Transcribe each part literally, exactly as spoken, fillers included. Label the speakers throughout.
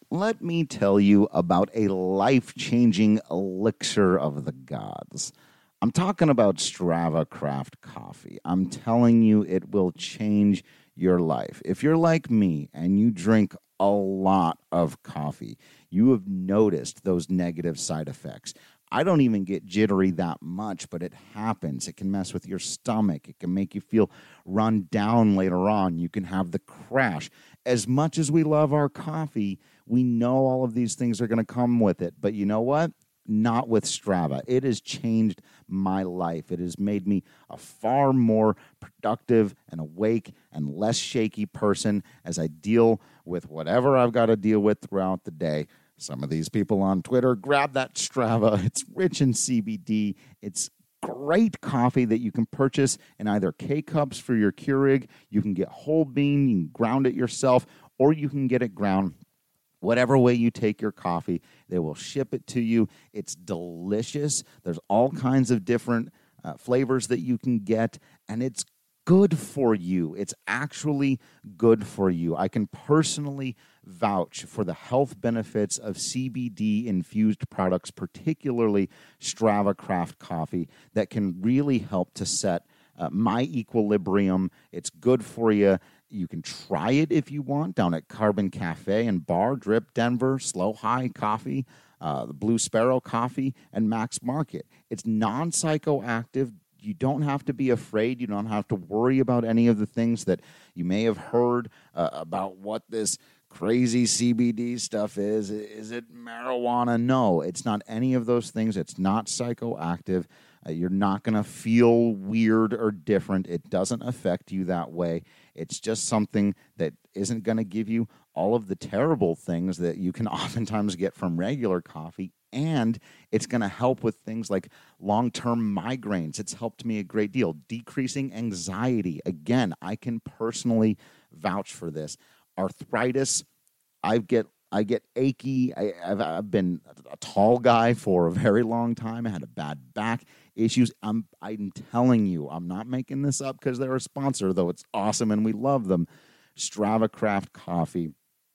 Speaker 1: let me tell you about a life-changing elixir of the gods. I'm talking about Strava Craft Coffee. I'm telling you, it will change your life. If you're like me and you drink a lot of coffee, you have noticed those negative side effects. I don't even get jittery that much, but it happens. It can mess with your stomach. It can make you feel run down later on. You can have the crash. As much as we love our coffee, we know all of these things are going to come with it. But you know what? Not with Strava. It has changed my life. It has made me a far more productive and awake and less shaky person as I deal with whatever I've got to deal with throughout the day. Some of these people on Twitter, grab that Strava. It's rich in C B D. It's great coffee that you can purchase in either K-Cups for your Keurig. You can get whole bean, you can ground it yourself, or you can get it ground. Whatever way you take your coffee, they will ship it to you. It's delicious. There's all kinds of different uh, flavors that you can get, and it's good for you. It's actually good for you. I can personally vouch for the health benefits of C B D-infused products, particularly Strava Craft Coffee, that can really help to set uh, my equilibrium. It's good for you. You can try it if you want down at Carbon Cafe and Bar, Drip Denver, Slow High Coffee, uh, the Blue Sparrow Coffee, and Max Market. It's non-psychoactive. You don't have to be afraid. You don't have to worry about any of the things that you may have heard uh, about what this crazy C B D stuff is. Is it marijuana? No, it's not any of those things. It's not psychoactive. Uh, you're not going to feel weird or different. It doesn't affect you that way. It's just something that isn't going to give you all of the terrible things that you can oftentimes get from regular coffee. And it's going to help with things like long-term migraines. It's helped me a great deal. Decreasing anxiety. Again, I can personally vouch for this. Arthritis, I get I get achy. I, I've, I've been a tall guy for a very long time. I had a bad back issues. I'm I'm telling you, I'm not making this up because they're a sponsor, though it's awesome and we love them. Strava Craft Coffee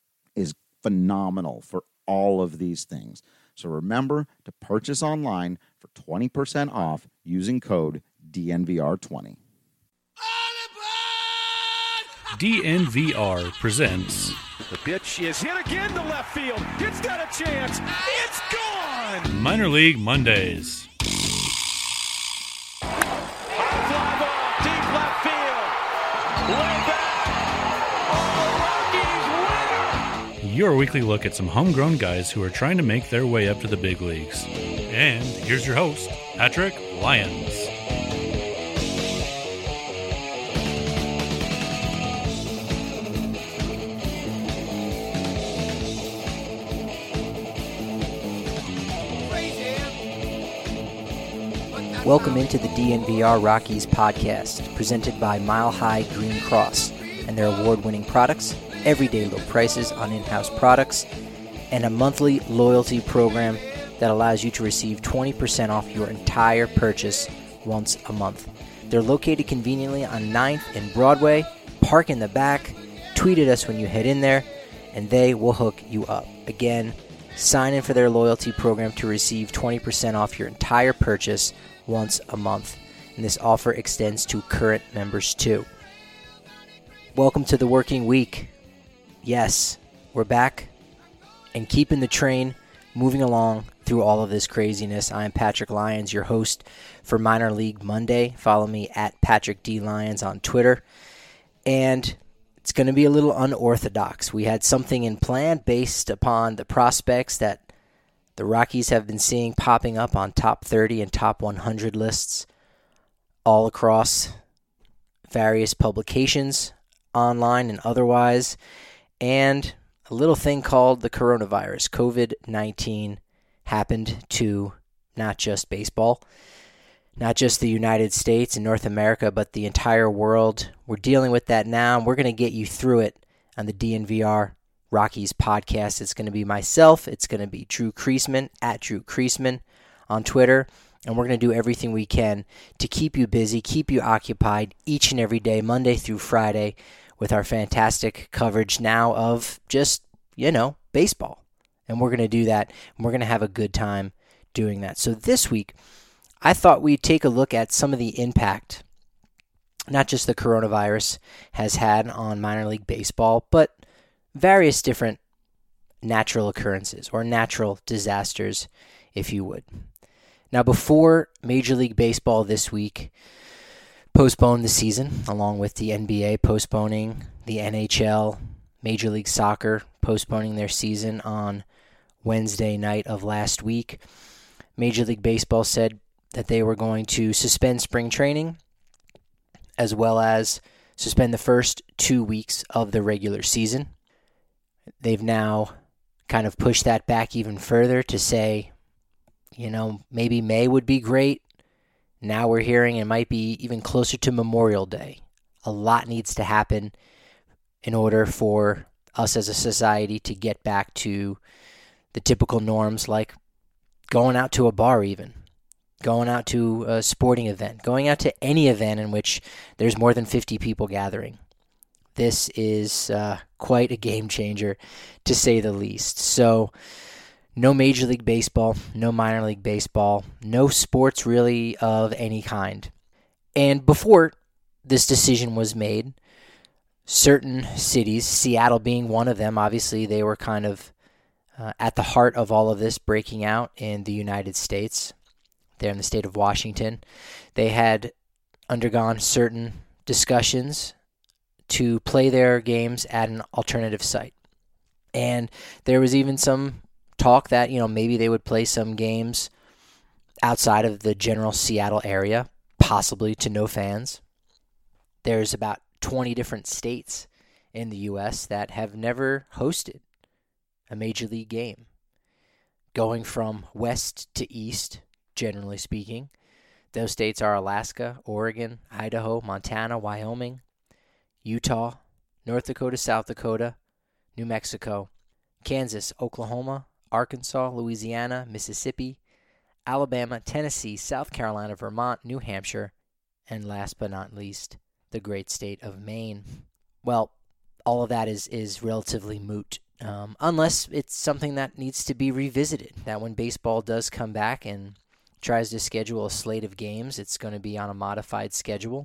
Speaker 1: is phenomenal for all of these things. So remember to purchase online for twenty percent off using code D N V R twenty.
Speaker 2: D N V R presents...
Speaker 3: The pitch is hit again to left field. It's got a chance. It's gone!
Speaker 2: Minor League Mondays.
Speaker 3: High fly ball, deep left field. Way back. Oh, Rockies winner!
Speaker 2: Your weekly look at some homegrown guys who are trying to make their way up to the big leagues. And here's your host, Patrick Lyons.
Speaker 4: Welcome into the D N V R Rockies podcast, presented by Mile High Green Cross and their award-winning products, everyday low prices on in-house products, and a monthly loyalty program that allows you to receive twenty percent off your entire purchase once a month. They're located conveniently on ninth and Broadway. Park in the back, tweet at us when you head in there, and they will hook you up. Again, sign in for their loyalty program to receive twenty percent off your entire purchase once a month, and this offer extends to current members too. Welcome to the working week. Yes, we're back and keeping the train moving along through all of this craziness. I am Patrick Lyons, your host for Minor League Monday. Follow me at Patrick D. Lyons on Twitter. And it's going to be a little unorthodox. We had something in plan based upon the prospects that the Rockies have been seeing popping up on top thirty and top one hundred lists all across various publications, online and otherwise, and a little thing called the coronavirus, covid nineteen, happened to not just baseball, not just the United States and North America, but the entire world. We're dealing with that now, and we're going to get you through it on the D N V R Rockies podcast. It's going to be myself. It's going to be Drew Creasman, at Drew Creasman on Twitter. And we're going to do everything we can to keep you busy, keep you occupied each and every day, Monday through Friday, with our fantastic coverage now of just, you know, baseball. And we're going to do that, and we're going to have a good time doing that. So this week, I thought we'd take a look at some of the impact, not just the coronavirus has had on minor league baseball, but various different natural occurrences or natural disasters, if you would. Now, before Major League Baseball this week postponed the season, along with the N B A postponing, the N H L, Major League Soccer postponing their season on Wednesday night of last week, Major League Baseball said that they were going to suspend spring training as well as suspend the first two weeks of the regular season. They've now kind of pushed that back even further to say, you know, maybe May would be great. Now we're hearing it might be even closer to Memorial Day. A lot needs to happen in order for us as a society to get back to the typical norms, like going out to a bar even, going out to a sporting event, going out to any event in which there's more than fifty people gathering. This is uh, quite a game changer, to say the least. So, no Major League Baseball, no minor league baseball, no sports really of any kind. And before this decision was made, certain cities, Seattle being one of them, obviously they were kind of uh, at the heart of all of this breaking out in the United States, there in the state of Washington. They had undergone certain discussions to play their games at an alternative site. And there was even some talk that, you know, maybe they would play some games outside of the general Seattle area, possibly to no fans. There's about twenty different states in the U S that have never hosted a major league game. Going from west to east, generally speaking, those states are Alaska, Oregon, Idaho, Montana, Wyoming, Utah, North Dakota, South Dakota, New Mexico, Kansas, Oklahoma, Arkansas, Louisiana, Mississippi, Alabama, Tennessee, South Carolina, Vermont, New Hampshire, and last but not least, the great state of Maine. Well, all of that is, is relatively moot, um, unless it's something that needs to be revisited, that when baseball does come back and tries to schedule a slate of games, it's going to be on a modified schedule.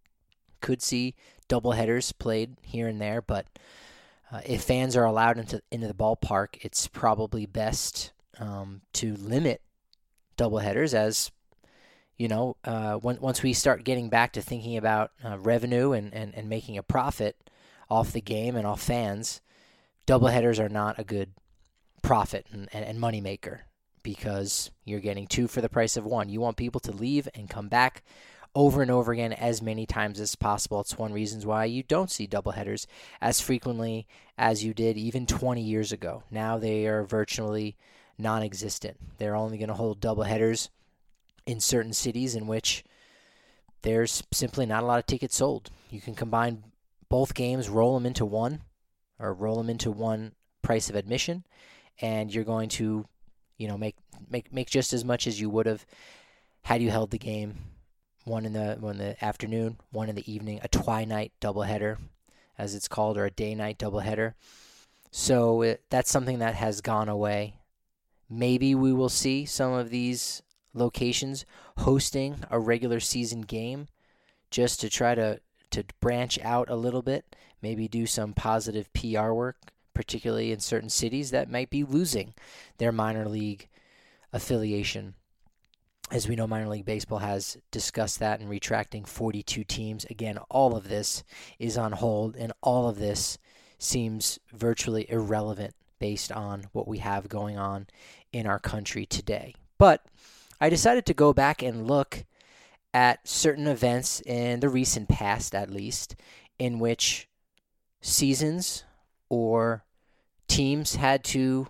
Speaker 4: Could see doubleheaders played here and there, but uh, if fans are allowed into into the ballpark, it's probably best um, to limit doubleheaders, as you know, uh, when, once we start getting back to thinking about uh, revenue and, and, and making a profit off the game and off fans, doubleheaders are not a good profit and, and, and money maker, because you're getting two for the price of one. You want people to leave and come back over and over again as many times as possible. It's one reason why you don't see doubleheaders as frequently as you did even twenty years ago. Now they are virtually non-existent. They're only going to hold doubleheaders in certain cities in which there's simply not a lot of tickets sold. You can combine both games, roll them into one, or roll them into one price of admission, and you're going to, you know, make make make just as much as you would have had you held the game. One in the one in the afternoon, one in the evening, a twilight doubleheader, as it's called, or a day-night doubleheader. So it, that's something that has gone away. Maybe we will see some of these locations hosting a regular season game just to try to, to branch out a little bit, maybe do some positive P R work, particularly in certain cities that might be losing their minor league affiliation. As we know, minor league baseball has discussed that and retracting forty-two teams. Again, all of this is on hold, and all of this seems virtually irrelevant based on what we have going on in our country today. But I decided to go back and look at certain events in the recent past, at least, in which seasons or teams had to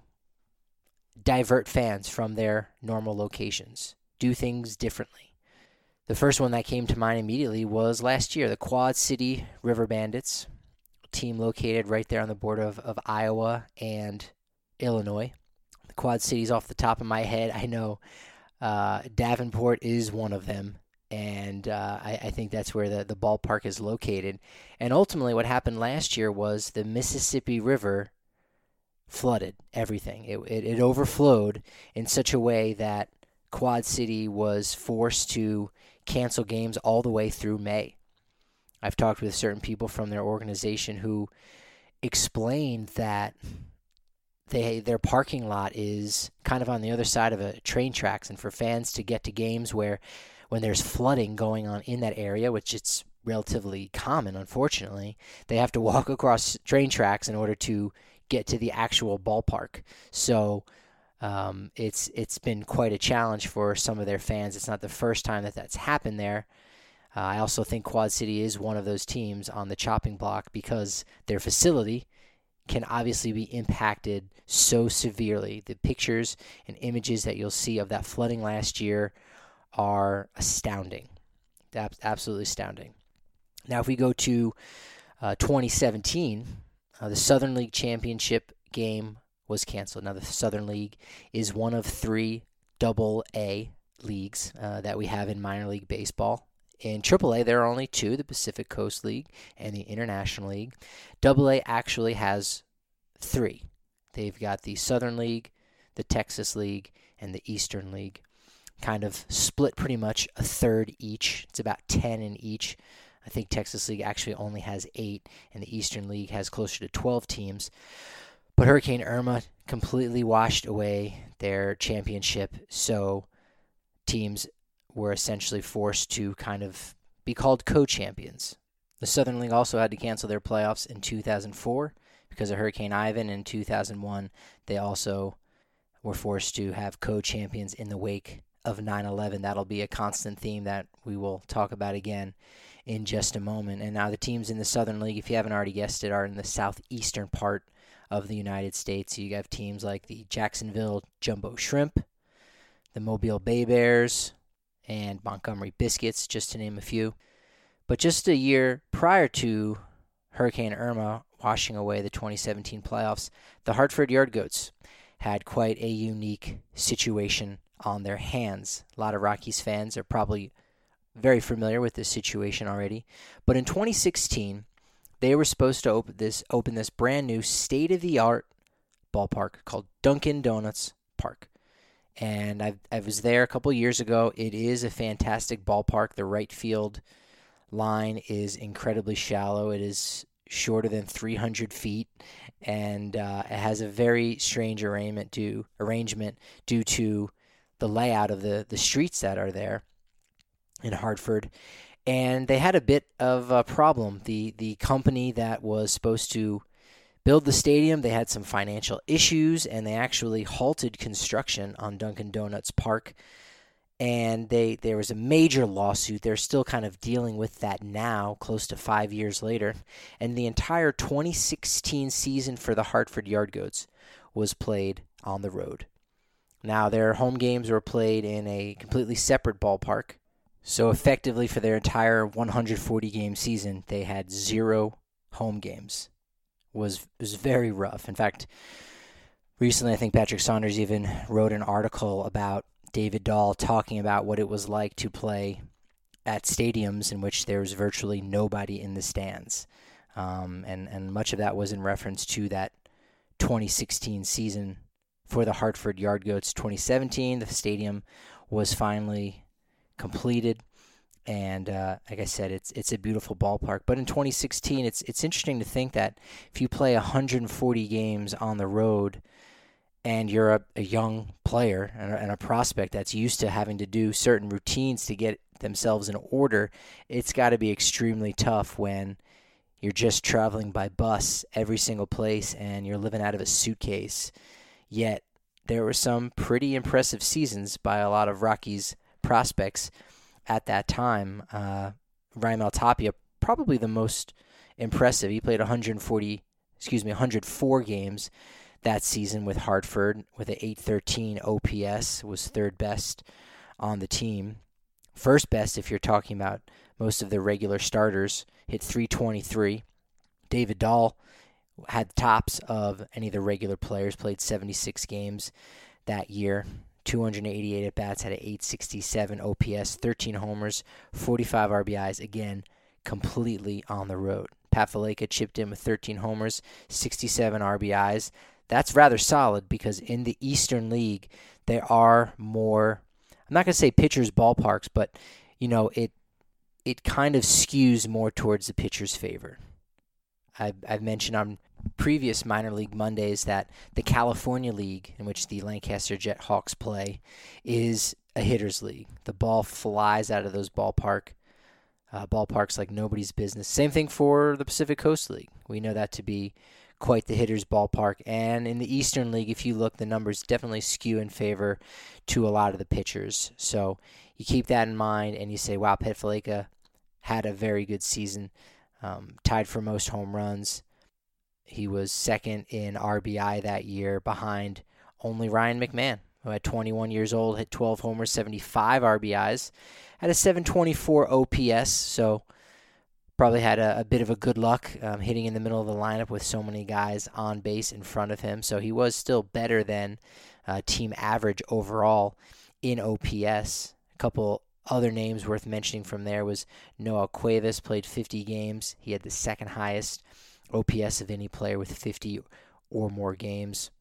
Speaker 4: divert fans from their normal locations, do things differently. The first one that came to mind immediately was last year, the Quad City River Bandits, a team located right there on the border of, of Iowa and Illinois. The Quad Cities off the top of my head, I know uh, Davenport is one of them, and uh, I, I think that's where the, the ballpark is located. And ultimately what happened last year was the Mississippi River flooded everything. It, it, it overflowed in such a way that Quad City was forced to cancel games all the way through May. I've talked with certain people from their organization who explained that they their parking lot is kind of on the other side of a train tracks, and for fans to get to games where when there's flooding going on in that area, which it's relatively common, unfortunately, they have to walk across train tracks in order to get to the actual ballpark. So um, it's it's been quite a challenge for some of their fans. It's not the first time that that's happened there. Uh, I also think Quad City is one of those teams on the chopping block because their facility can obviously be impacted so severely. The pictures and images that you'll see of that flooding last year are astounding. Absolutely astounding. Now, if we go to uh, twenty seventeen, uh, the Southern League Championship game was canceled. Now, the Southern League is one of three double A leagues uh, that we have in minor league baseball. In triple A, there are only two, the Pacific Coast League and the International League. double A actually has three. They've got the Southern League, the Texas League, and the Eastern League, kind of split pretty much a third each. It's about ten in each. I think Texas League actually only has eight, and the Eastern League has closer to twelve teams. But Hurricane Irma completely washed away their championship, so teams were essentially forced to kind of be called co-champions. The Southern League also had to cancel their playoffs in two thousand four because of Hurricane Ivan. In two thousand one, they also were forced to have co-champions in the wake of nine eleven. That'll be a constant theme that we will talk about again in just a moment. And now the teams in the Southern League, if you haven't already guessed it, are in the southeastern part of the United States. You have teams like the Jacksonville Jumbo Shrimp, the Mobile Bay Bears, and Montgomery Biscuits, just to name a few. But just a year prior to Hurricane Irma washing away the twenty seventeen playoffs, the Hartford Yard Goats had quite a unique situation on their hands. A lot of Rockies fans are probably very familiar with this situation already. But in twenty sixteen, they were supposed to open this open this brand new state-of-the-art ballpark called Dunkin' Donuts Park. And I I was there a couple years ago. It is a fantastic ballpark. The right field line is incredibly shallow. It is shorter than three hundred feet, and uh, it has a very strange arrangement due, arrangement due to the layout of the, the streets that are there in Hartford. And they had a bit of a problem. The the company that was supposed to build the stadium, they had some financial issues, and they actually halted construction on Dunkin' Donuts Park. And they there was a major lawsuit. They're still kind of dealing with that now, close to five years later. And the entire twenty sixteen season for the Hartford Yard Goats was played on the road. Now, their home games were played in a completely separate ballpark. So effectively, for their entire one hundred forty game season, they had zero home games. It was was very rough. In fact, recently I think Patrick Saunders even wrote an article about David Dahl talking about what it was like to play at stadiums in which there was virtually nobody in the stands. Um, and, and much of that was in reference to that twenty sixteen season for the Hartford Yard Goats. twenty seventeen, the stadium was finally completed. And uh, like I said, it's it's a beautiful ballpark. But in twenty sixteen, it's it's interesting to think that if you play one hundred forty games on the road, and you're a, a young player and a, and a prospect that's used to having to do certain routines to get themselves in order, it's got to be extremely tough when you're just traveling by bus every single place and you're living out of a suitcase. Yet there were some pretty impressive seasons by a lot of Rockies prospects at that time. Uh, Raimel Tapia, probably the most impressive. He played one hundred forty, excuse me, one hundred four games that season with Hartford with an eight thirteen O P S, was third best on the team. First best if you're talking about most of the regular starters, hit three twenty-three. David Dahl had tops of any of the regular players, played seventy-six games that year, two hundred eighty-eight at-bats, had an eight sixty-seven O P S, thirteen homers, forty-five R B Is, again, completely on the road. Pat Valaika chipped in with thirteen homers, sixty-seven R B Is. that's rather solid because in the Eastern League, there are more, I'm not going to say pitchers' ballparks, but, you know, it it kind of skews more towards the pitcher's favor. I've, I've mentioned on previous minor league Mondays that the California League, in which the Lancaster Jethawks play, is a hitter's league. The ball flies out of those ballpark uh, ballparks like nobody's business. Same thing for the Pacific Coast League. We know that to be quite the hitter's ballpark. And in the Eastern League, if you look, the numbers definitely skew in favor to a lot of the pitchers. So you keep that in mind and you say, wow, Pet Valaika had a very good season, um, tied for most home runs. He was second in R B I that year behind only Ryan McMahon, who at twenty-one years old hit twelve homers, seventy-five R B Is, had a seven twenty-four O P S, so probably had a, a bit of a good luck um, hitting in the middle of the lineup with so many guys on base in front of him. So he was still better than uh, team average overall in O P S. A couple other names worth mentioning from there was Noah Cuevas, played fifty games. He had the second highest O P S of any player with fifty or more games.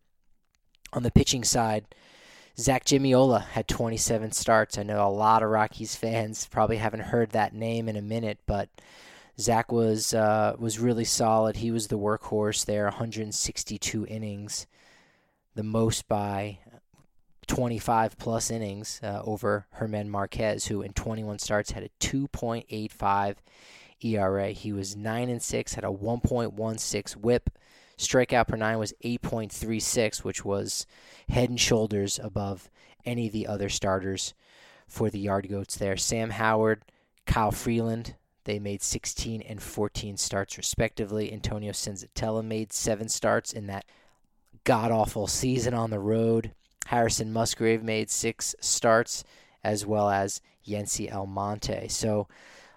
Speaker 4: On the pitching side, Zach Gimiola had twenty-seven starts. I know a lot of Rockies fans probably haven't heard that name in a minute, but Zach was uh, was really solid. He was the workhorse there, one hundred sixty-two innings, the most by twenty-five plus innings uh, over German Marquez, who in twenty-one starts had a two point eight five E R A. He was nine and six, had a one point one six whip. Strikeout per nine was eight point three six, which was head and shoulders above any of the other starters for the Yard Goats there. Sam Howard, Kyle Freeland, they made sixteen and fourteen starts respectively. Antonio Senzatella made seven starts in that god-awful season on the road. Harrison Musgrave made six starts, as well as Yency Almonte. So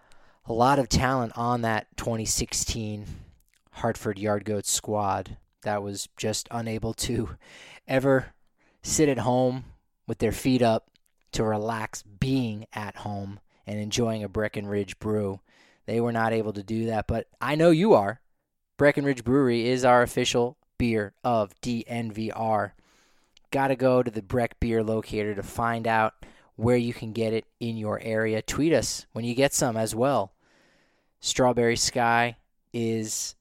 Speaker 4: a lot of talent on that twenty sixteen Hartford Yard Goats squad that was just unable to ever sit at home with their feet up to relax being at home and enjoying a Breckenridge brew. They were not able to do that, but I know you are. Breckenridge Brewery is our official beer of D N V R. Got to go to the Breck Beer Locator to find out where you can get it in your area. Tweet us when you get some as well. Strawberry Sky is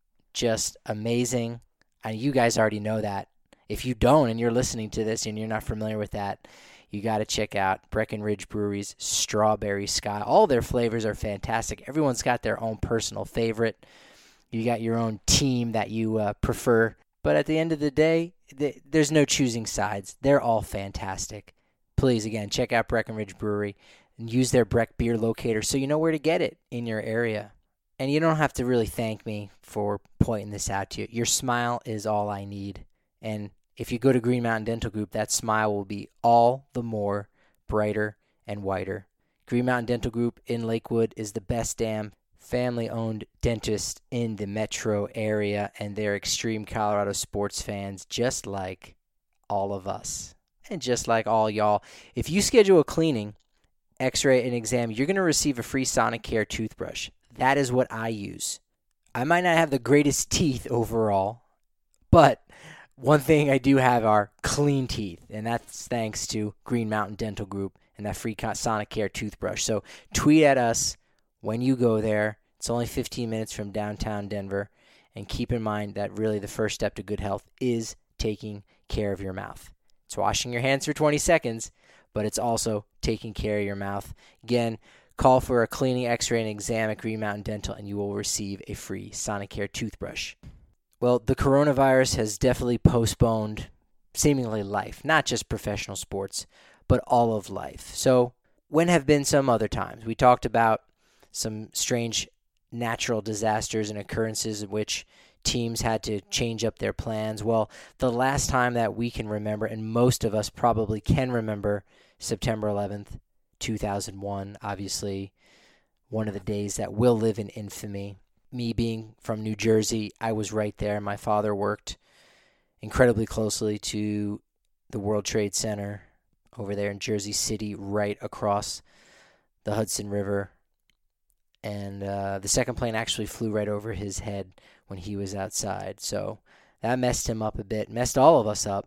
Speaker 4: just amazing. And you guys already know that. If you don't and you're listening to this and you're not familiar with that, you got to check out Breckenridge Brewery's Strawberry Sky. All their flavors are fantastic. Everyone's got their own personal favorite. You got your own team that you uh, prefer. But at the end of the day, th- there's no choosing sides. They're all fantastic. Please, again, check out Breckenridge Brewery and use their Breck Beer Locator so you know where to get it in your area. And you don't have to really thank me for pointing this out to you. Your smile is all I need. And if you go to Green Mountain Dental Group, that smile will be all the more brighter and whiter. Green Mountain Dental Group in Lakewood is the best damn family-owned dentist in the metro area, and they're extreme Colorado sports fans just like all of us and just like all y'all. If you schedule a cleaning, x-ray, and exam, you're going to receive a free Sonicare toothbrush. That is what I use. I might not have the greatest teeth overall, but one thing I do have are clean teeth, and that's thanks to Green Mountain Dental Group and that free Sonicare toothbrush. So tweet at us when you go there. It's only fifteen minutes from downtown Denver, and keep in mind that really the first step to good health is taking care of your mouth. It's washing your hands for twenty seconds, but it's also taking care of your mouth. Again, call for a cleaning, x-ray, and exam at Green Mountain Dental, and you will receive a free Sonicare toothbrush. Well, the coronavirus has definitely postponed seemingly life, not just professional sports, but all of life. So when have been some other times? We talked about some strange natural disasters and occurrences in which teams had to change up their plans. Well, the last time that we can remember, and most of us probably can remember, September eleventh, two thousand one, obviously one of the days that will live in infamy. Me being from New Jersey, I was right there. My father worked incredibly closely to the World Trade Center over there in Jersey City, right across the Hudson River. And uh, the second plane actually flew right over his head when he was outside. So that messed him up a bit, messed all of us up.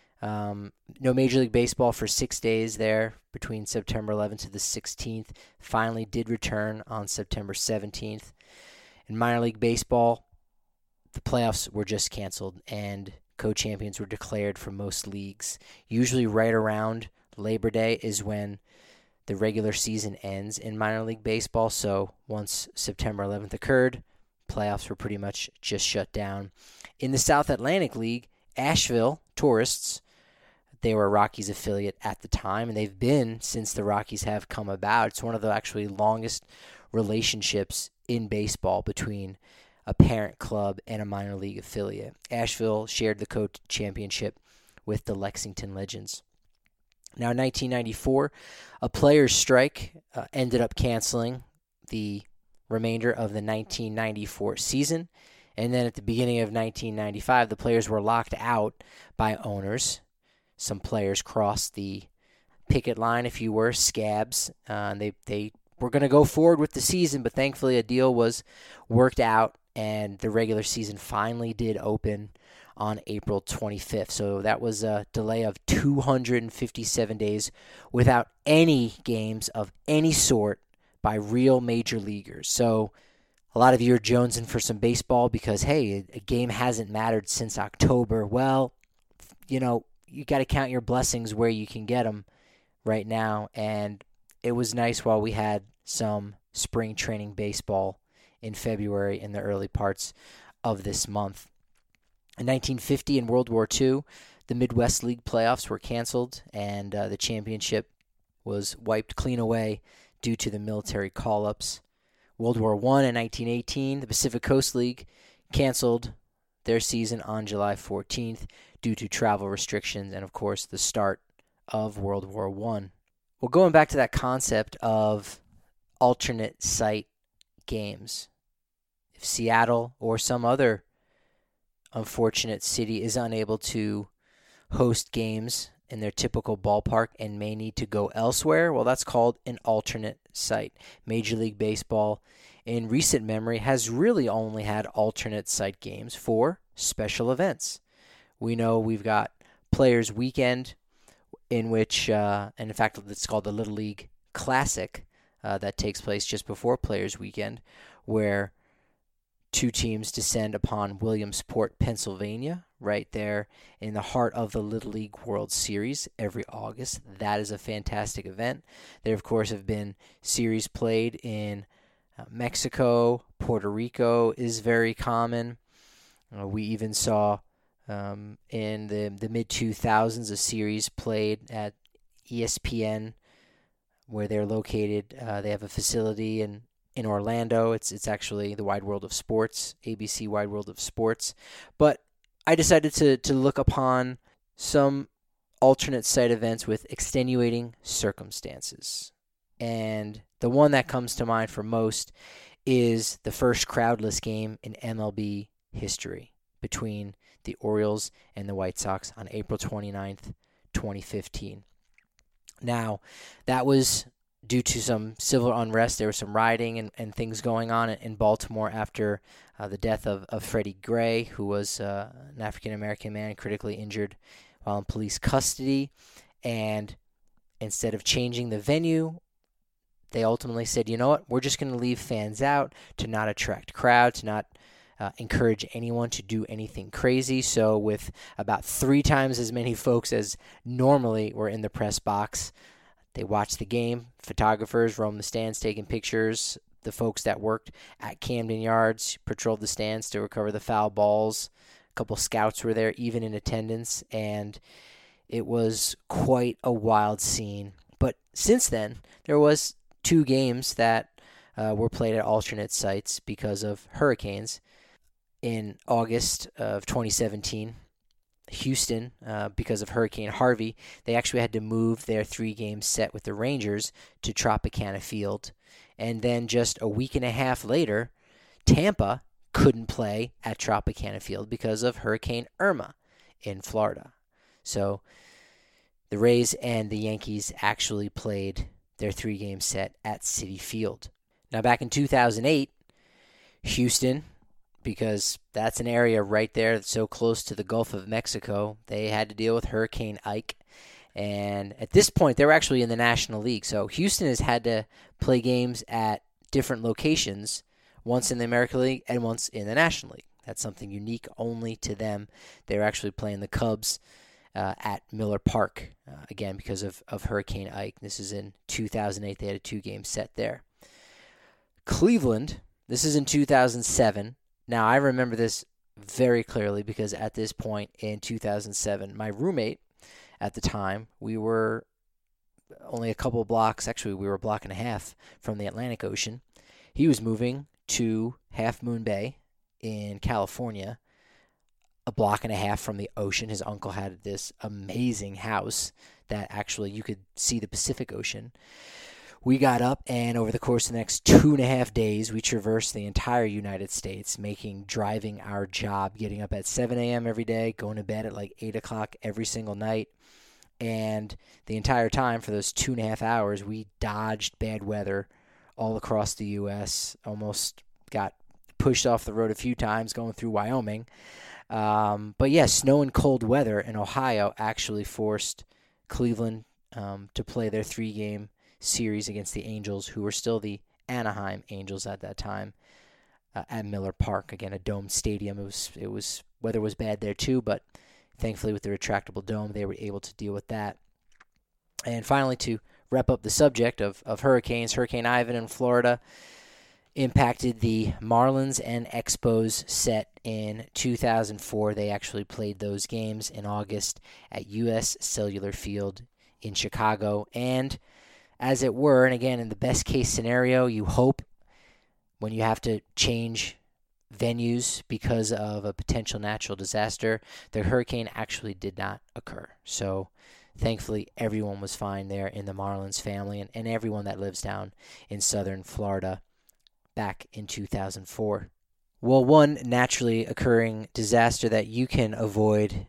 Speaker 4: Um, no Major League Baseball for six days there between September eleventh to the sixteenth. Finally did return on September seventeenth. In minor league baseball, the playoffs were just canceled and co-champions were declared for most leagues. Usually right around Labor Day is when the regular season ends in minor league baseball. So once September eleventh occurred, playoffs were pretty much just shut down. In the South Atlantic League, Asheville Tourists, they were a Rockies affiliate at the time, and they've been since the Rockies have come about. It's one of the actually longest relationships in baseball between a parent club and a minor league affiliate. Asheville shared the co-championship with the Lexington Legends. Now, in nineteen ninety-four, a players' strike uh, ended up canceling the remainder of the nineteen ninety-four season. And then at the beginning of nineteen ninety-five, the players were locked out by owners. Some players crossed the picket line, if you were, scabs. Uh, and they, they were going to go forward with the season, but thankfully a deal was worked out, and the regular season finally did open on April twenty-fifth. So that was a delay of two hundred fifty-seven days without any games of any sort by real major leaguers. So a lot of you are jonesing for some baseball because, hey, a game hasn't mattered since October. Well, you know, you got to count your blessings where you can get them right now. And it was nice while we had some spring training baseball in February in the early parts of this month. In nineteen fifty, in World War Two, the Midwest League playoffs were canceled, and uh, the championship was wiped clean away due to the military call-ups. World War One in nineteen eighteen, the Pacific Coast League canceled their season on July fourteenth due to travel restrictions and, of course, the start of World War One. Well, going back to that concept of alternate site games, if Seattle or some other unfortunate city is unable to host games in their typical ballpark and may need to go elsewhere, well, that's called an alternate site. Major League Baseball, in recent memory, has really only had alternate site games for special events. We know we've got Players Weekend, in which, uh, and in fact, it's called the Little League Classic, uh, that takes place just before Players Weekend, where two teams descend upon Williamsport, Pennsylvania, right there in the heart of the Little League World Series every August. That is a fantastic event. There, of course, have been series played in uh, Mexico. Puerto Rico is very common. Uh, we even saw um, in the, the mid two thousands a series played at E S P N where they're located. Uh, they have a facility in In Orlando. It's it's actually the Wide World of Sports, A B C Wide World of Sports. But I decided to, to look upon some alternate site events with extenuating circumstances. And the one that comes to mind for most is the first crowdless game in M L B history between the Orioles and the White Sox on April twenty-ninth, twenty fifteen. Now, that was due to some civil unrest. There was some rioting and, and things going on in Baltimore after uh, the death of, of Freddie Gray, who was uh, an African-American man critically injured while in police custody. And instead of changing the venue, they ultimately said, you know what, we're just going to leave fans out to not attract crowds, to not uh, encourage anyone to do anything crazy. So with about three times as many folks as normally were in the press box, they watched the game. Photographers roamed the stands taking pictures. The folks that worked at Camden Yards patrolled the stands to recover the foul balls. A couple scouts were there, even in attendance, and it was quite a wild scene. But since then, there was two games that uh, were played at alternate sites because of hurricanes. In August of twenty seventeen, Houston, uh, because of Hurricane Harvey, they actually had to move their three-game set with the Rangers to Tropicana Field. And then just a week and a half later, Tampa couldn't play at Tropicana Field because of Hurricane Irma in Florida. So the Rays and the Yankees actually played their three-game set at Citi Field. Now, back in two thousand eight, Houston because that's an area right there that's so close to the Gulf of Mexico. They had to deal with Hurricane Ike. And at this point, they were actually in the National League. So Houston has had to play games at different locations, once in the American League and once in the National League. That's something unique only to them. They're actually playing the Cubs uh, at Miller Park, uh, again, because of, of Hurricane Ike. This is in two thousand eight. They had a two-game set there. Cleveland, this is in two thousand seven. Now, I remember this very clearly because at this point in two thousand seven, my roommate at the time, we were only a couple of blocks, actually we were a block and a half from the Atlantic Ocean. He was moving to Half Moon Bay in California, a block and a half from the ocean. His uncle had this amazing house that actually you could see the Pacific Ocean. We got up, and over the course of the next two and a half days, we traversed the entire United States, making driving our job, getting up at seven a.m. every day, going to bed at like eight o'clock every single night. And the entire time, for those two and a half hours, we dodged bad weather all across the U S, almost got pushed off the road a few times going through Wyoming. Um, but yeah, snow and cold weather in Ohio actually forced Cleveland um, to play their three-game series against the Angels, who were still the Anaheim Angels at that time, uh, at Miller Park. Again, a domed stadium. It was, it was weather was bad there too, but thankfully with the retractable dome, they were able to deal with that. And finally, to wrap up the subject of, of hurricanes, Hurricane Ivan in Florida impacted the Marlins and Expos set in two thousand four. They actually played those games in August at U S Cellular Field in Chicago. And as it were, and again, in the best case scenario, you hope when you have to change venues because of a potential natural disaster, the hurricane actually did not occur. So thankfully, everyone was fine there in the Marlins family and, and everyone that lives down in southern Florida back in two thousand four. Well, one naturally occurring disaster that you can avoid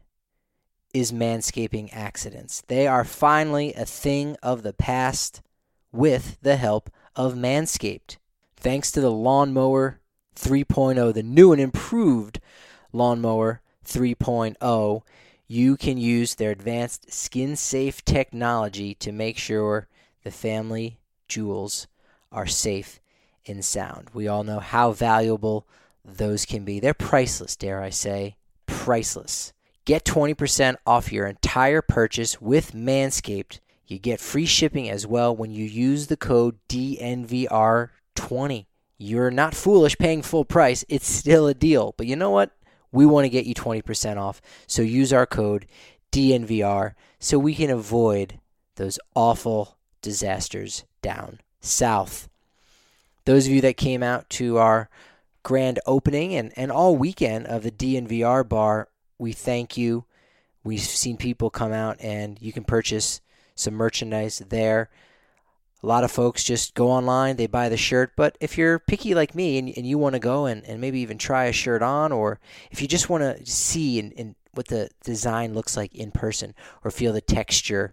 Speaker 4: is manscaping accidents. They are finally a thing of the past with the help of Manscaped. Thanks to the Lawnmower three point oh, the new and improved Lawnmower three point oh, you can use their advanced skin-safe technology to make sure the family jewels are safe and sound. We all know how valuable those can be. They're priceless, dare I say. Priceless. Get twenty percent off your entire purchase with Manscaped. You get free shipping as well when you use the code D N V R twenty. You're not foolish paying full price. It's still a deal. But you know what? We want to get you twenty percent off. So use our code D N V R so we can avoid those awful disasters down south. Those of you that came out to our grand opening and, and all weekend of the D N V R bar, we thank you. We've seen people come out and you can purchase some merchandise there. A lot of folks just go online, they buy the shirt, but if you're picky like me and, and you want to go and, and maybe even try a shirt on, or if you just want to see in, in what the design looks like in person or feel the texture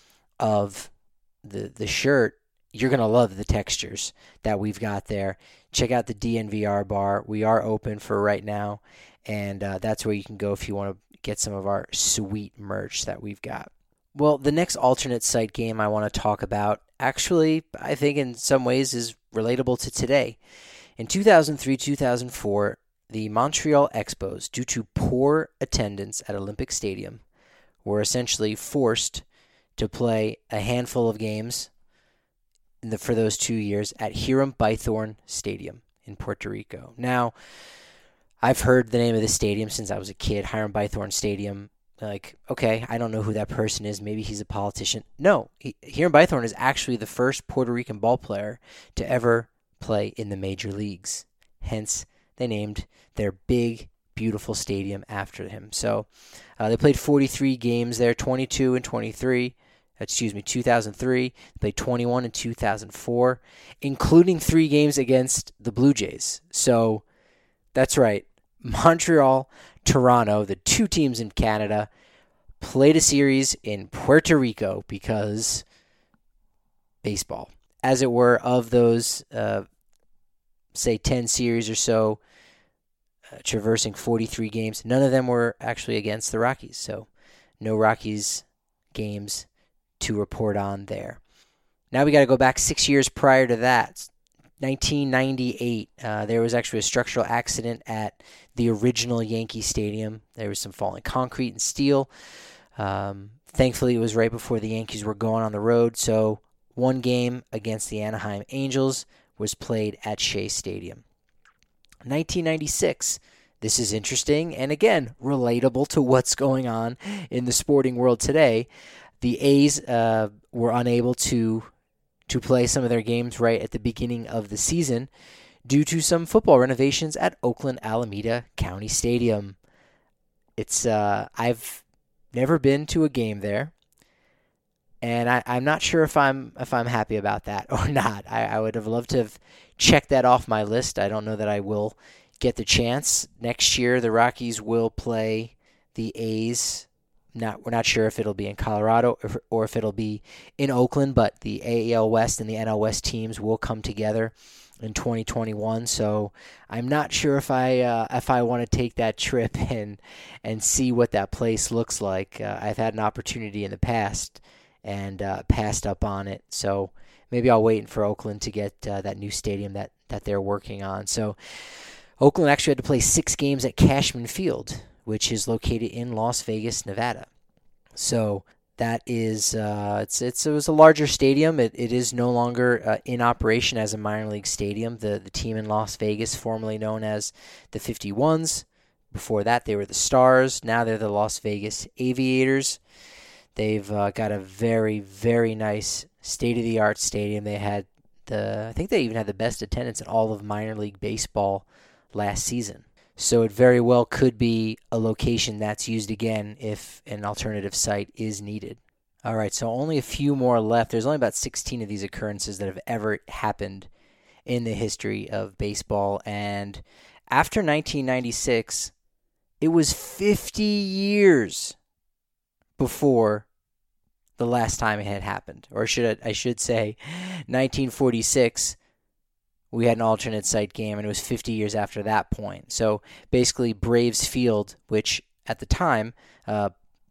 Speaker 4: of the the shirt, you're going to love the textures that we've got there. Check out the D N V R bar. We are open for right now, and uh, that's where you can go if you want to get some of our sweet merch that we've got. Well, the next alternate site game I want to talk about actually, I think in some ways is relatable to today. In two thousand three two thousand four, the Montreal Expos, due to poor attendance at Olympic Stadium, were essentially forced to play a handful of games in the, for those two years at Hiram Bythorne Stadium in Puerto Rico. Now, I've heard the name of this stadium since I was a kid, Hiram Bythorne Stadium. Like, okay, I don't know who that person is. Maybe he's a politician. No, he, Hiram Bythorne is actually the first Puerto Rican ball player to ever play in the major leagues. Hence, they named their big, beautiful stadium after him. So, uh, they played forty-three games there, twenty-two and twenty-three. Excuse me, two thousand three. They played twenty-one in two thousand four, including three games against the Blue Jays. So, that's right. Montreal, Toronto, the two teams in Canada, played a series in Puerto Rico because baseball. As it were, of those, uh, say, ten series or so, uh, traversing forty-three games. None of them were actually against the Rockies, so no Rockies games to report on there. Now we got to go back six years prior to that. nineteen ninety-eight, uh, there was actually a structural accident at the original Yankee Stadium. There was some falling concrete and steel. Um, thankfully, it was right before the Yankees were going on the road, so one game against the Anaheim Angels was played at Shea Stadium. nineteen ninety-six, this is interesting and, again, relatable to what's going on in the sporting world today. The A's uh, were unable to to play some of their games right at the beginning of the season due to some football renovations at Oakland Alameda County Stadium. It's uh, I've never been to a game there, and I, I'm not sure if I'm if I'm happy about that or not. I, I would have loved to have checked that off my list. I don't know that I will get the chance. Next year, the Rockies will play the A's. Not, we're not sure if it'll be in Colorado or, or if it'll be in Oakland, but the A L West and the N L West teams will come together in twenty twenty-one. So I'm not sure if I uh, if I want to take that trip and and see what that place looks like. Uh, I've had an opportunity in the past and uh, passed up on it. So maybe I'll wait for Oakland to get uh, that new stadium that, that they're working on. So Oakland actually had to play six games at Cashman Field, which is located in Las Vegas, Nevada. So that is, uh, it's it's it was a larger stadium. It it is no longer uh, in operation as a minor league stadium. The the team in Las Vegas, formerly known as the fifty-ones, before that they were the Stars. Now they're the Las Vegas Aviators. They've uh, got a very very nice state-of-the-art stadium. They had the I think they even had the best attendance in all of minor league baseball last season. So it very well could be a location that's used again if an alternative site is needed. All right, so only a few more left. There's only about sixteen of these occurrences that have ever happened in the history of baseball. And after nineteen ninety-six, it was fifty years before the last time it had happened. Or should I, I should say nineteen forty-six. We had an alternate site game, and it was fifty years after that point. So basically, Braves Field, which at the time uh,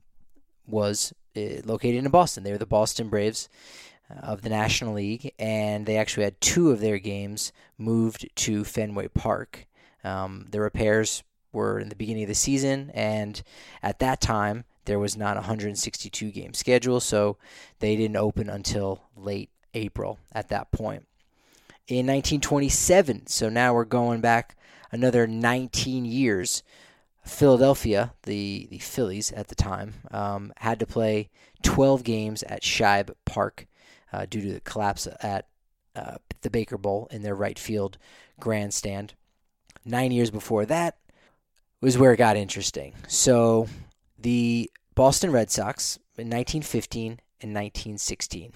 Speaker 4: was uh, located in Boston. They were the Boston Braves uh, of the National League, and they actually had two of their games moved to Fenway Park. Um, the repairs were in the beginning of the season, and at that time, there was not a one hundred sixty-two game schedule, so they didn't open until late April at that point. In nineteen twenty-seven, so now we're going back another nineteen years, Philadelphia, the, the Phillies at the time, um, had to play twelve games at Shibe Park uh, due to the collapse at uh, the Baker Bowl in their right field grandstand. Nine years before that was where it got interesting. So the Boston Red Sox in nineteen fifteen and nineteen sixteen.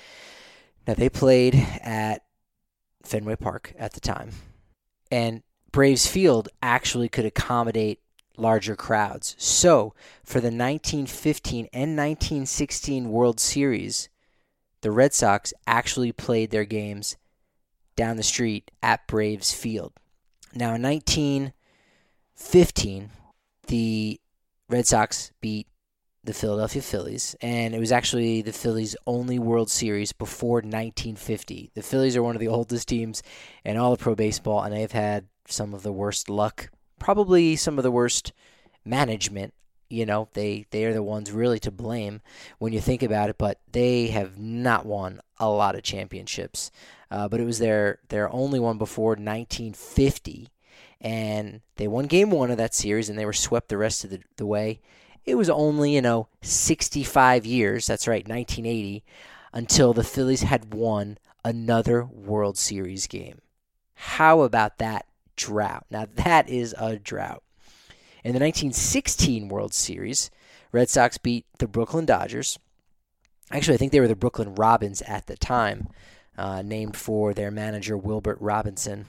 Speaker 4: Now they played at Fenway Park at the time, and Braves Field actually could accommodate larger crowds. So for the nineteen fifteen and nineteen sixteen World Series, the Red Sox actually played their games down the street at Braves Field. Now in nineteen fifteen, the Red Sox beat the Philadelphia Phillies, and it was actually the Phillies' only World Series before nineteen fifty. The Phillies are one of the oldest teams in all of pro baseball, and they've had some of the worst luck, probably some of the worst management. You know, they, they are the ones really to blame when you think about it, but they have not won a lot of championships. Uh, but it was their, their only one before nineteen fifty, and they won game one of that series, and they were swept the rest of the, the way. It was only, you know, sixty-five years, that's right, nineteen eighty, until the Phillies had won another World Series game. How about that drought? Now, that is a drought. In the nineteen sixteen World Series, Red Sox beat the Brooklyn Dodgers. Actually, I think they were the Brooklyn Robins at the time, uh, named for their manager, Wilbert Robinson.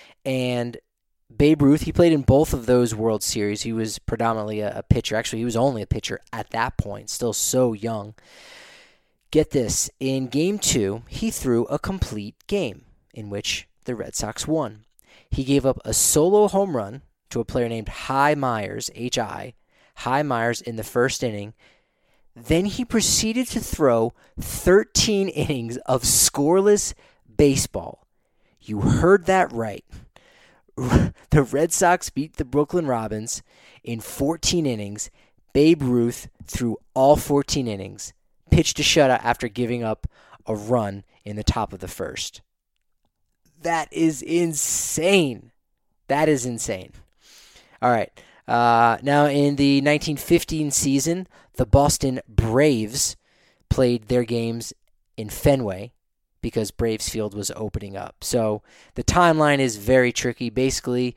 Speaker 4: And Babe Ruth, he played in both of those World Series. He was predominantly a, a pitcher. Actually, he was only a pitcher at that point, still so young. Get this, in Game two, he threw a complete game in which the Red Sox won. He gave up a solo home run to a player named Hi Myers, H I, Hi Myers in the first inning. Then he proceeded to throw thirteen innings of scoreless baseball. You heard that right. The Red Sox beat the Brooklyn Robins in fourteen innings. Babe Ruth threw all fourteen innings, pitched a shutout after giving up a run in the top of the first. That is insane. That is insane. All right. Uh, now, in the nineteen fifteen season, the Boston Braves played their games in Fenway because Braves Field was opening up. So the timeline is very tricky. Basically,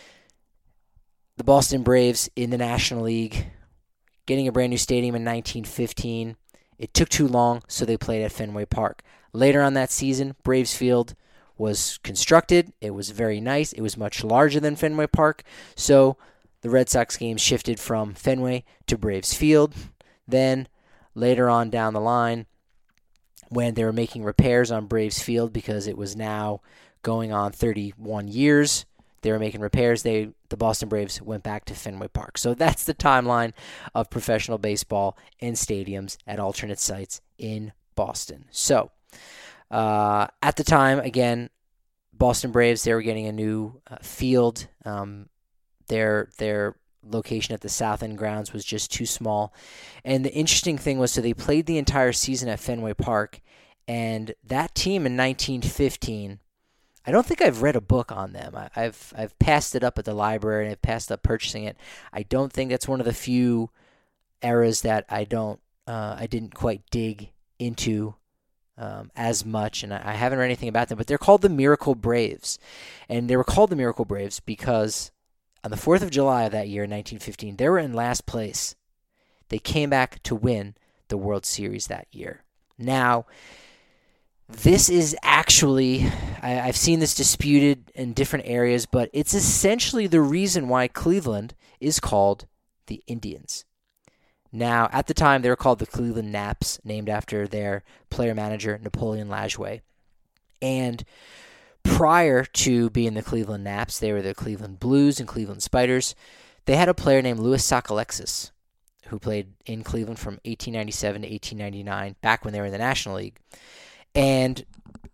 Speaker 4: the Boston Braves in the National League getting a brand new stadium in nineteen fifteen. It took too long, so they played at Fenway Park. Later on that season, Braves Field was constructed. It was very nice. It was much larger than Fenway Park. So the Red Sox games shifted from Fenway to Braves Field. Then later on down the line, when they were making repairs on Braves Field because it was now going on thirty-one years, they were making repairs. They the Boston Braves went back to Fenway Park. So that's the timeline of professional baseball in stadiums at alternate sites in Boston. So uh, at the time, again, Boston Braves, they were getting a new uh, field. Um, their their location at the South End grounds was just too small. And the interesting thing was, so they played the entire season at Fenway Park, and that team in nineteen fifteen, I don't think I've read a book on them. I, I've I've passed it up at the library and I've passed up purchasing it. I don't think that's one of the few eras that I don't uh, I didn't quite dig into um, as much, and I, I haven't read anything about them. But they're called the Miracle Braves, and they were called the Miracle Braves because on the fourth of July of that year, nineteen fifteen, they were in last place. They came back to win the World Series that year. Now, this is actually, I, I've seen this disputed in different areas, but it's essentially the reason why Cleveland is called the Indians. Now, at the time, they were called the Cleveland Naps, named after their player-manager, Napoleon Lajoie. And prior to being the Cleveland Naps, they were the Cleveland Blues and Cleveland Spiders. They had a player named Louis Sockalexis, who played in Cleveland from eighteen ninety-seven to eighteen ninety-nine, back when they were in the National League. And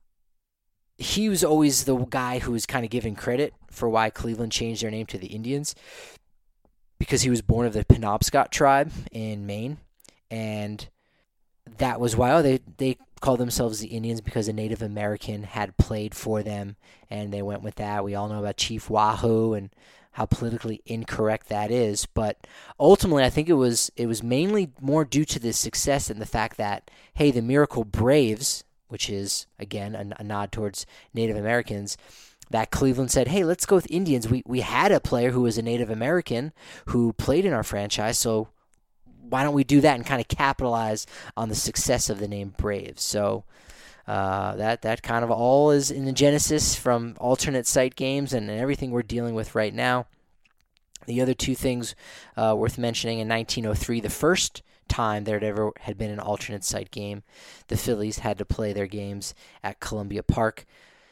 Speaker 4: he was always the guy who was kind of given credit for why Cleveland changed their name to the Indians, because he was born of the Penobscot tribe in Maine. And that was why oh, they, they called themselves the Indians, because a Native American had played for them, and they went with that. We all know about Chief Wahoo and how politically incorrect that is. But ultimately, I think it was it was mainly more due to the success and the fact that, hey, the Miracle Braves, which is, again, a, a nod towards Native Americans, that Cleveland said, hey, let's go with Indians. We we had a player who was a Native American who played in our franchise, so why don't we do that and kind of capitalize on the success of the name Braves? So uh, that that kind of all is in the genesis from alternate site games and, and everything we're dealing with right now. The other two things uh, worth mentioning, in nineteen oh three, the first time there had ever had been an alternate site game, the Phillies had to play their games at Columbia Park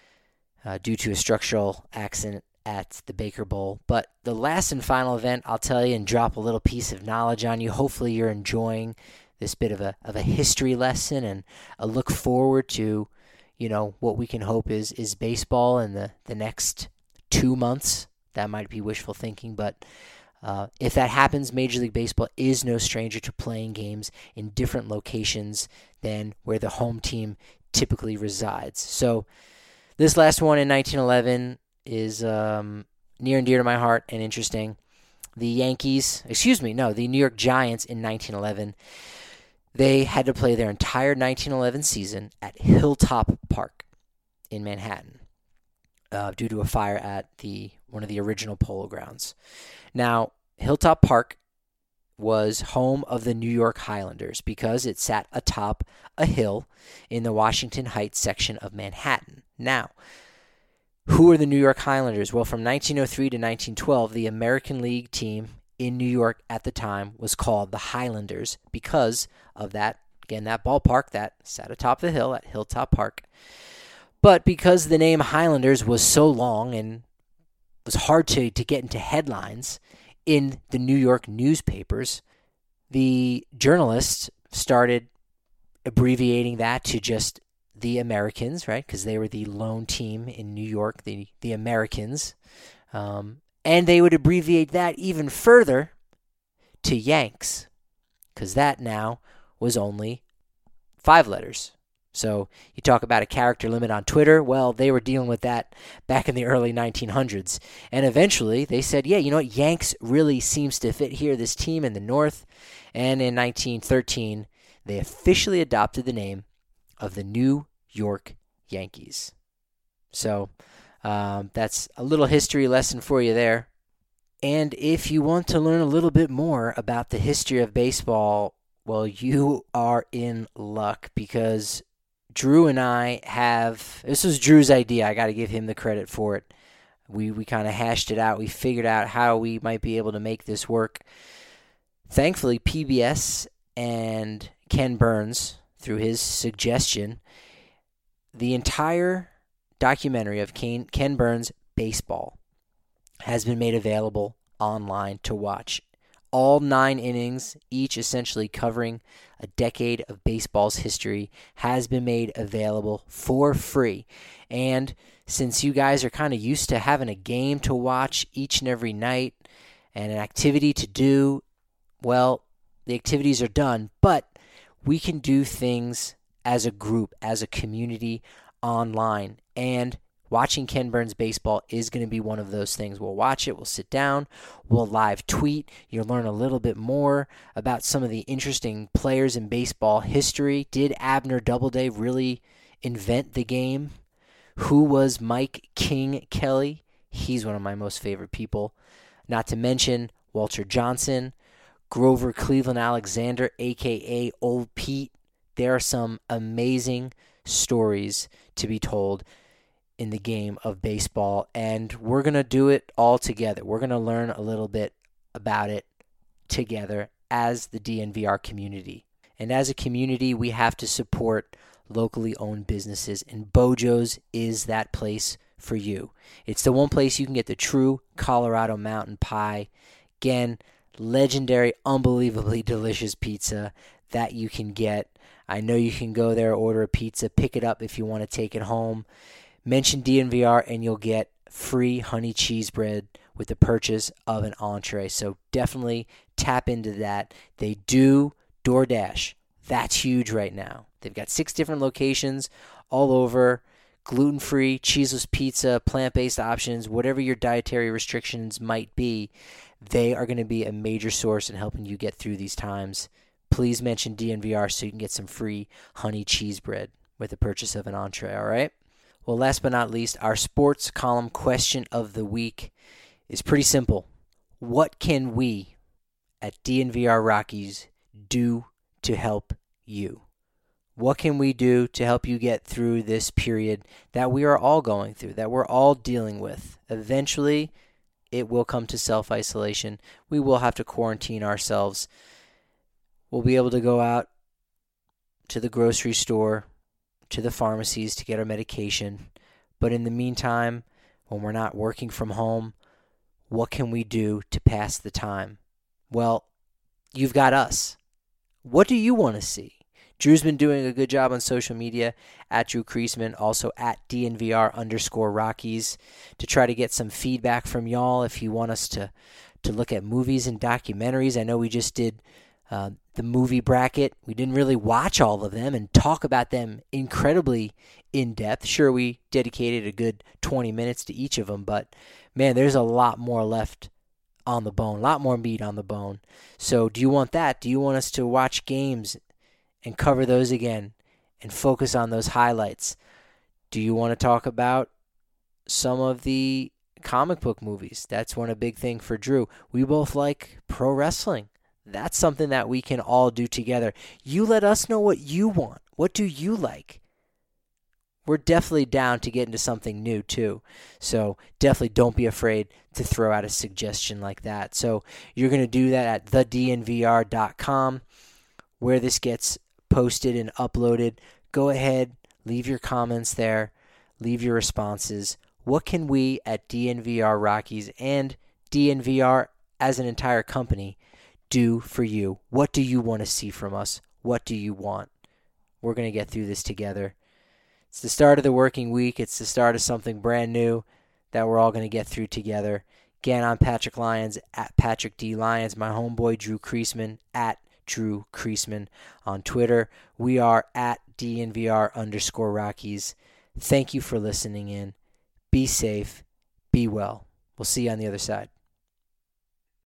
Speaker 4: uh, due to a structural accident at the Baker Bowl. But the last and final event, I'll tell you and drop a little piece of knowledge on you. Hopefully you're enjoying this bit of a of a history lesson and a look forward to, you know, what we can hope is is baseball in the, the next two months. That might be wishful thinking, but uh, if that happens, Major League Baseball is no stranger to playing games in different locations than where the home team typically resides. So this last one in nineteen eleven is um, near and dear to my heart and interesting. The Yankees, excuse me, no, the New York Giants in nineteen eleven, they had to play their entire nineteen eleven season at Hilltop Park in Manhattan uh, due to a fire at the one of the original Polo Grounds. Now, Hilltop Park was home of the New York Highlanders because it sat atop a hill in the Washington Heights section of Manhattan. Now, who are the New York Highlanders? Well, from nineteen oh three to nineteen twelve, the American League team in New York at the time was called the Highlanders because of that, again, that ballpark that sat atop the hill at Hilltop Park. But because the name Highlanders was so long and was hard to, to get into headlines in the New York newspapers, the journalists started abbreviating that to just the Americans, right? Because they were the lone team in New York, the, the Americans. Um, and they would abbreviate that even further to Yanks, because that now was only five letters. So you talk about a character limit on Twitter. Well, they were dealing with that back in the early nineteen hundreds. And eventually they said, yeah, you know what? Yanks really seems to fit here, this team in the North. And in nineteen thirteen, they officially adopted the name of the New York Yankees. So um, that's a little history lesson for you there. And if you want to learn a little bit more about the history of baseball, well, you are in luck, because Drew and I have, this was Drew's idea. I got to give him the credit for it. We we kind of hashed it out. We figured out how we might be able to make this work. Thankfully, P B S and Ken Burns, through his suggestion, the entire documentary of Ken, Ken Burns' baseball has been made available online to watch. All nine innings, each essentially covering a decade of baseball's history, has been made available for free. And since you guys are kind of used to having a game to watch each and every night and an activity to do, well, the activities are done, but we can do things as a group, as a community online. And watching Ken Burns baseball is going to be one of those things. We'll watch it, we'll sit down, we'll live tweet. You'll learn a little bit more about some of the interesting players in baseball history. Did Abner Doubleday really invent the game? Who was Mike King Kelly? He's one of my most favorite people. Not to mention Walter Johnson, Grover Cleveland Alexander, a k a. Old Pete. There are some amazing stories to be told in the game of baseball, and we're going to do it all together. We're going to learn a little bit about it together as the D N V R community. And as a community, we have to support locally owned businesses, and Bojo's is that place for you. It's the one place you can get the true Colorado mountain pie. Again, legendary, unbelievably delicious pizza that you can get. I know you can go there, order a pizza, pick it up if you want to take it home. Mention D N V R and you'll get free honey cheese bread with the purchase of an entree. So definitely tap into that. They do DoorDash. That's huge right now. They've got six different locations all over. Gluten-free, cheeseless pizza, plant-based options, whatever your dietary restrictions might be, they are going to be a major source in helping you get through these times. Please mention D N V R so you can get some free honey cheese bread with the purchase of an entree, all right? Well, last but not least, our sports column question of the week is pretty simple. What can we at D N V R Rockies do to help you? What can we do to help you get through this period that we are all going through, that we're all dealing with? Eventually, it will come to self-isolation. We will have to quarantine ourselves. We'll be able to go out to the grocery store, to the pharmacies to get our medication. But in the meantime, when we're not working from home, what can we do to pass the time? Well, you've got us. What do you want to see? Drew's been doing a good job on social media, at Drew Kreisman, also at D N V R underscore Rockies, to try to get some feedback from y'all if you want us to, to look at movies and documentaries. I know we just did uh, the movie bracket. We didn't really watch all of them and talk about them incredibly in depth. Sure, we dedicated a good twenty minutes to each of them, but man, there's a lot more left on the bone, a lot more meat on the bone. So do you want that? Do you want us to watch games and cover those again and focus on those highlights? Do you want to talk about some of the comic book movies? That's one a big thing for Drew. We both like pro wrestling. That's something that we can all do together. You let us know what you want. What do you like? We're definitely down to get into something new too. So definitely don't be afraid to throw out a suggestion like that. So you're going to do that at the d n v r dot com where this gets posted and uploaded. Go ahead, leave your comments there, leave your responses. What can we at D N V R Rockies and D N V R as an entire company do for you? What do you want to see from us? What do you want? We're going to get through this together. It's the start of the working week. It's the start of something brand new that we're all going to get through together. Again, I'm Patrick Lyons, at Patrick D. Lyons. My homeboy, Drew Creasman, at Drew Creasman on Twitter. We are at D N V R underscore Rockies. Thank you for listening in. Be safe. Be well. We'll see you on the other side.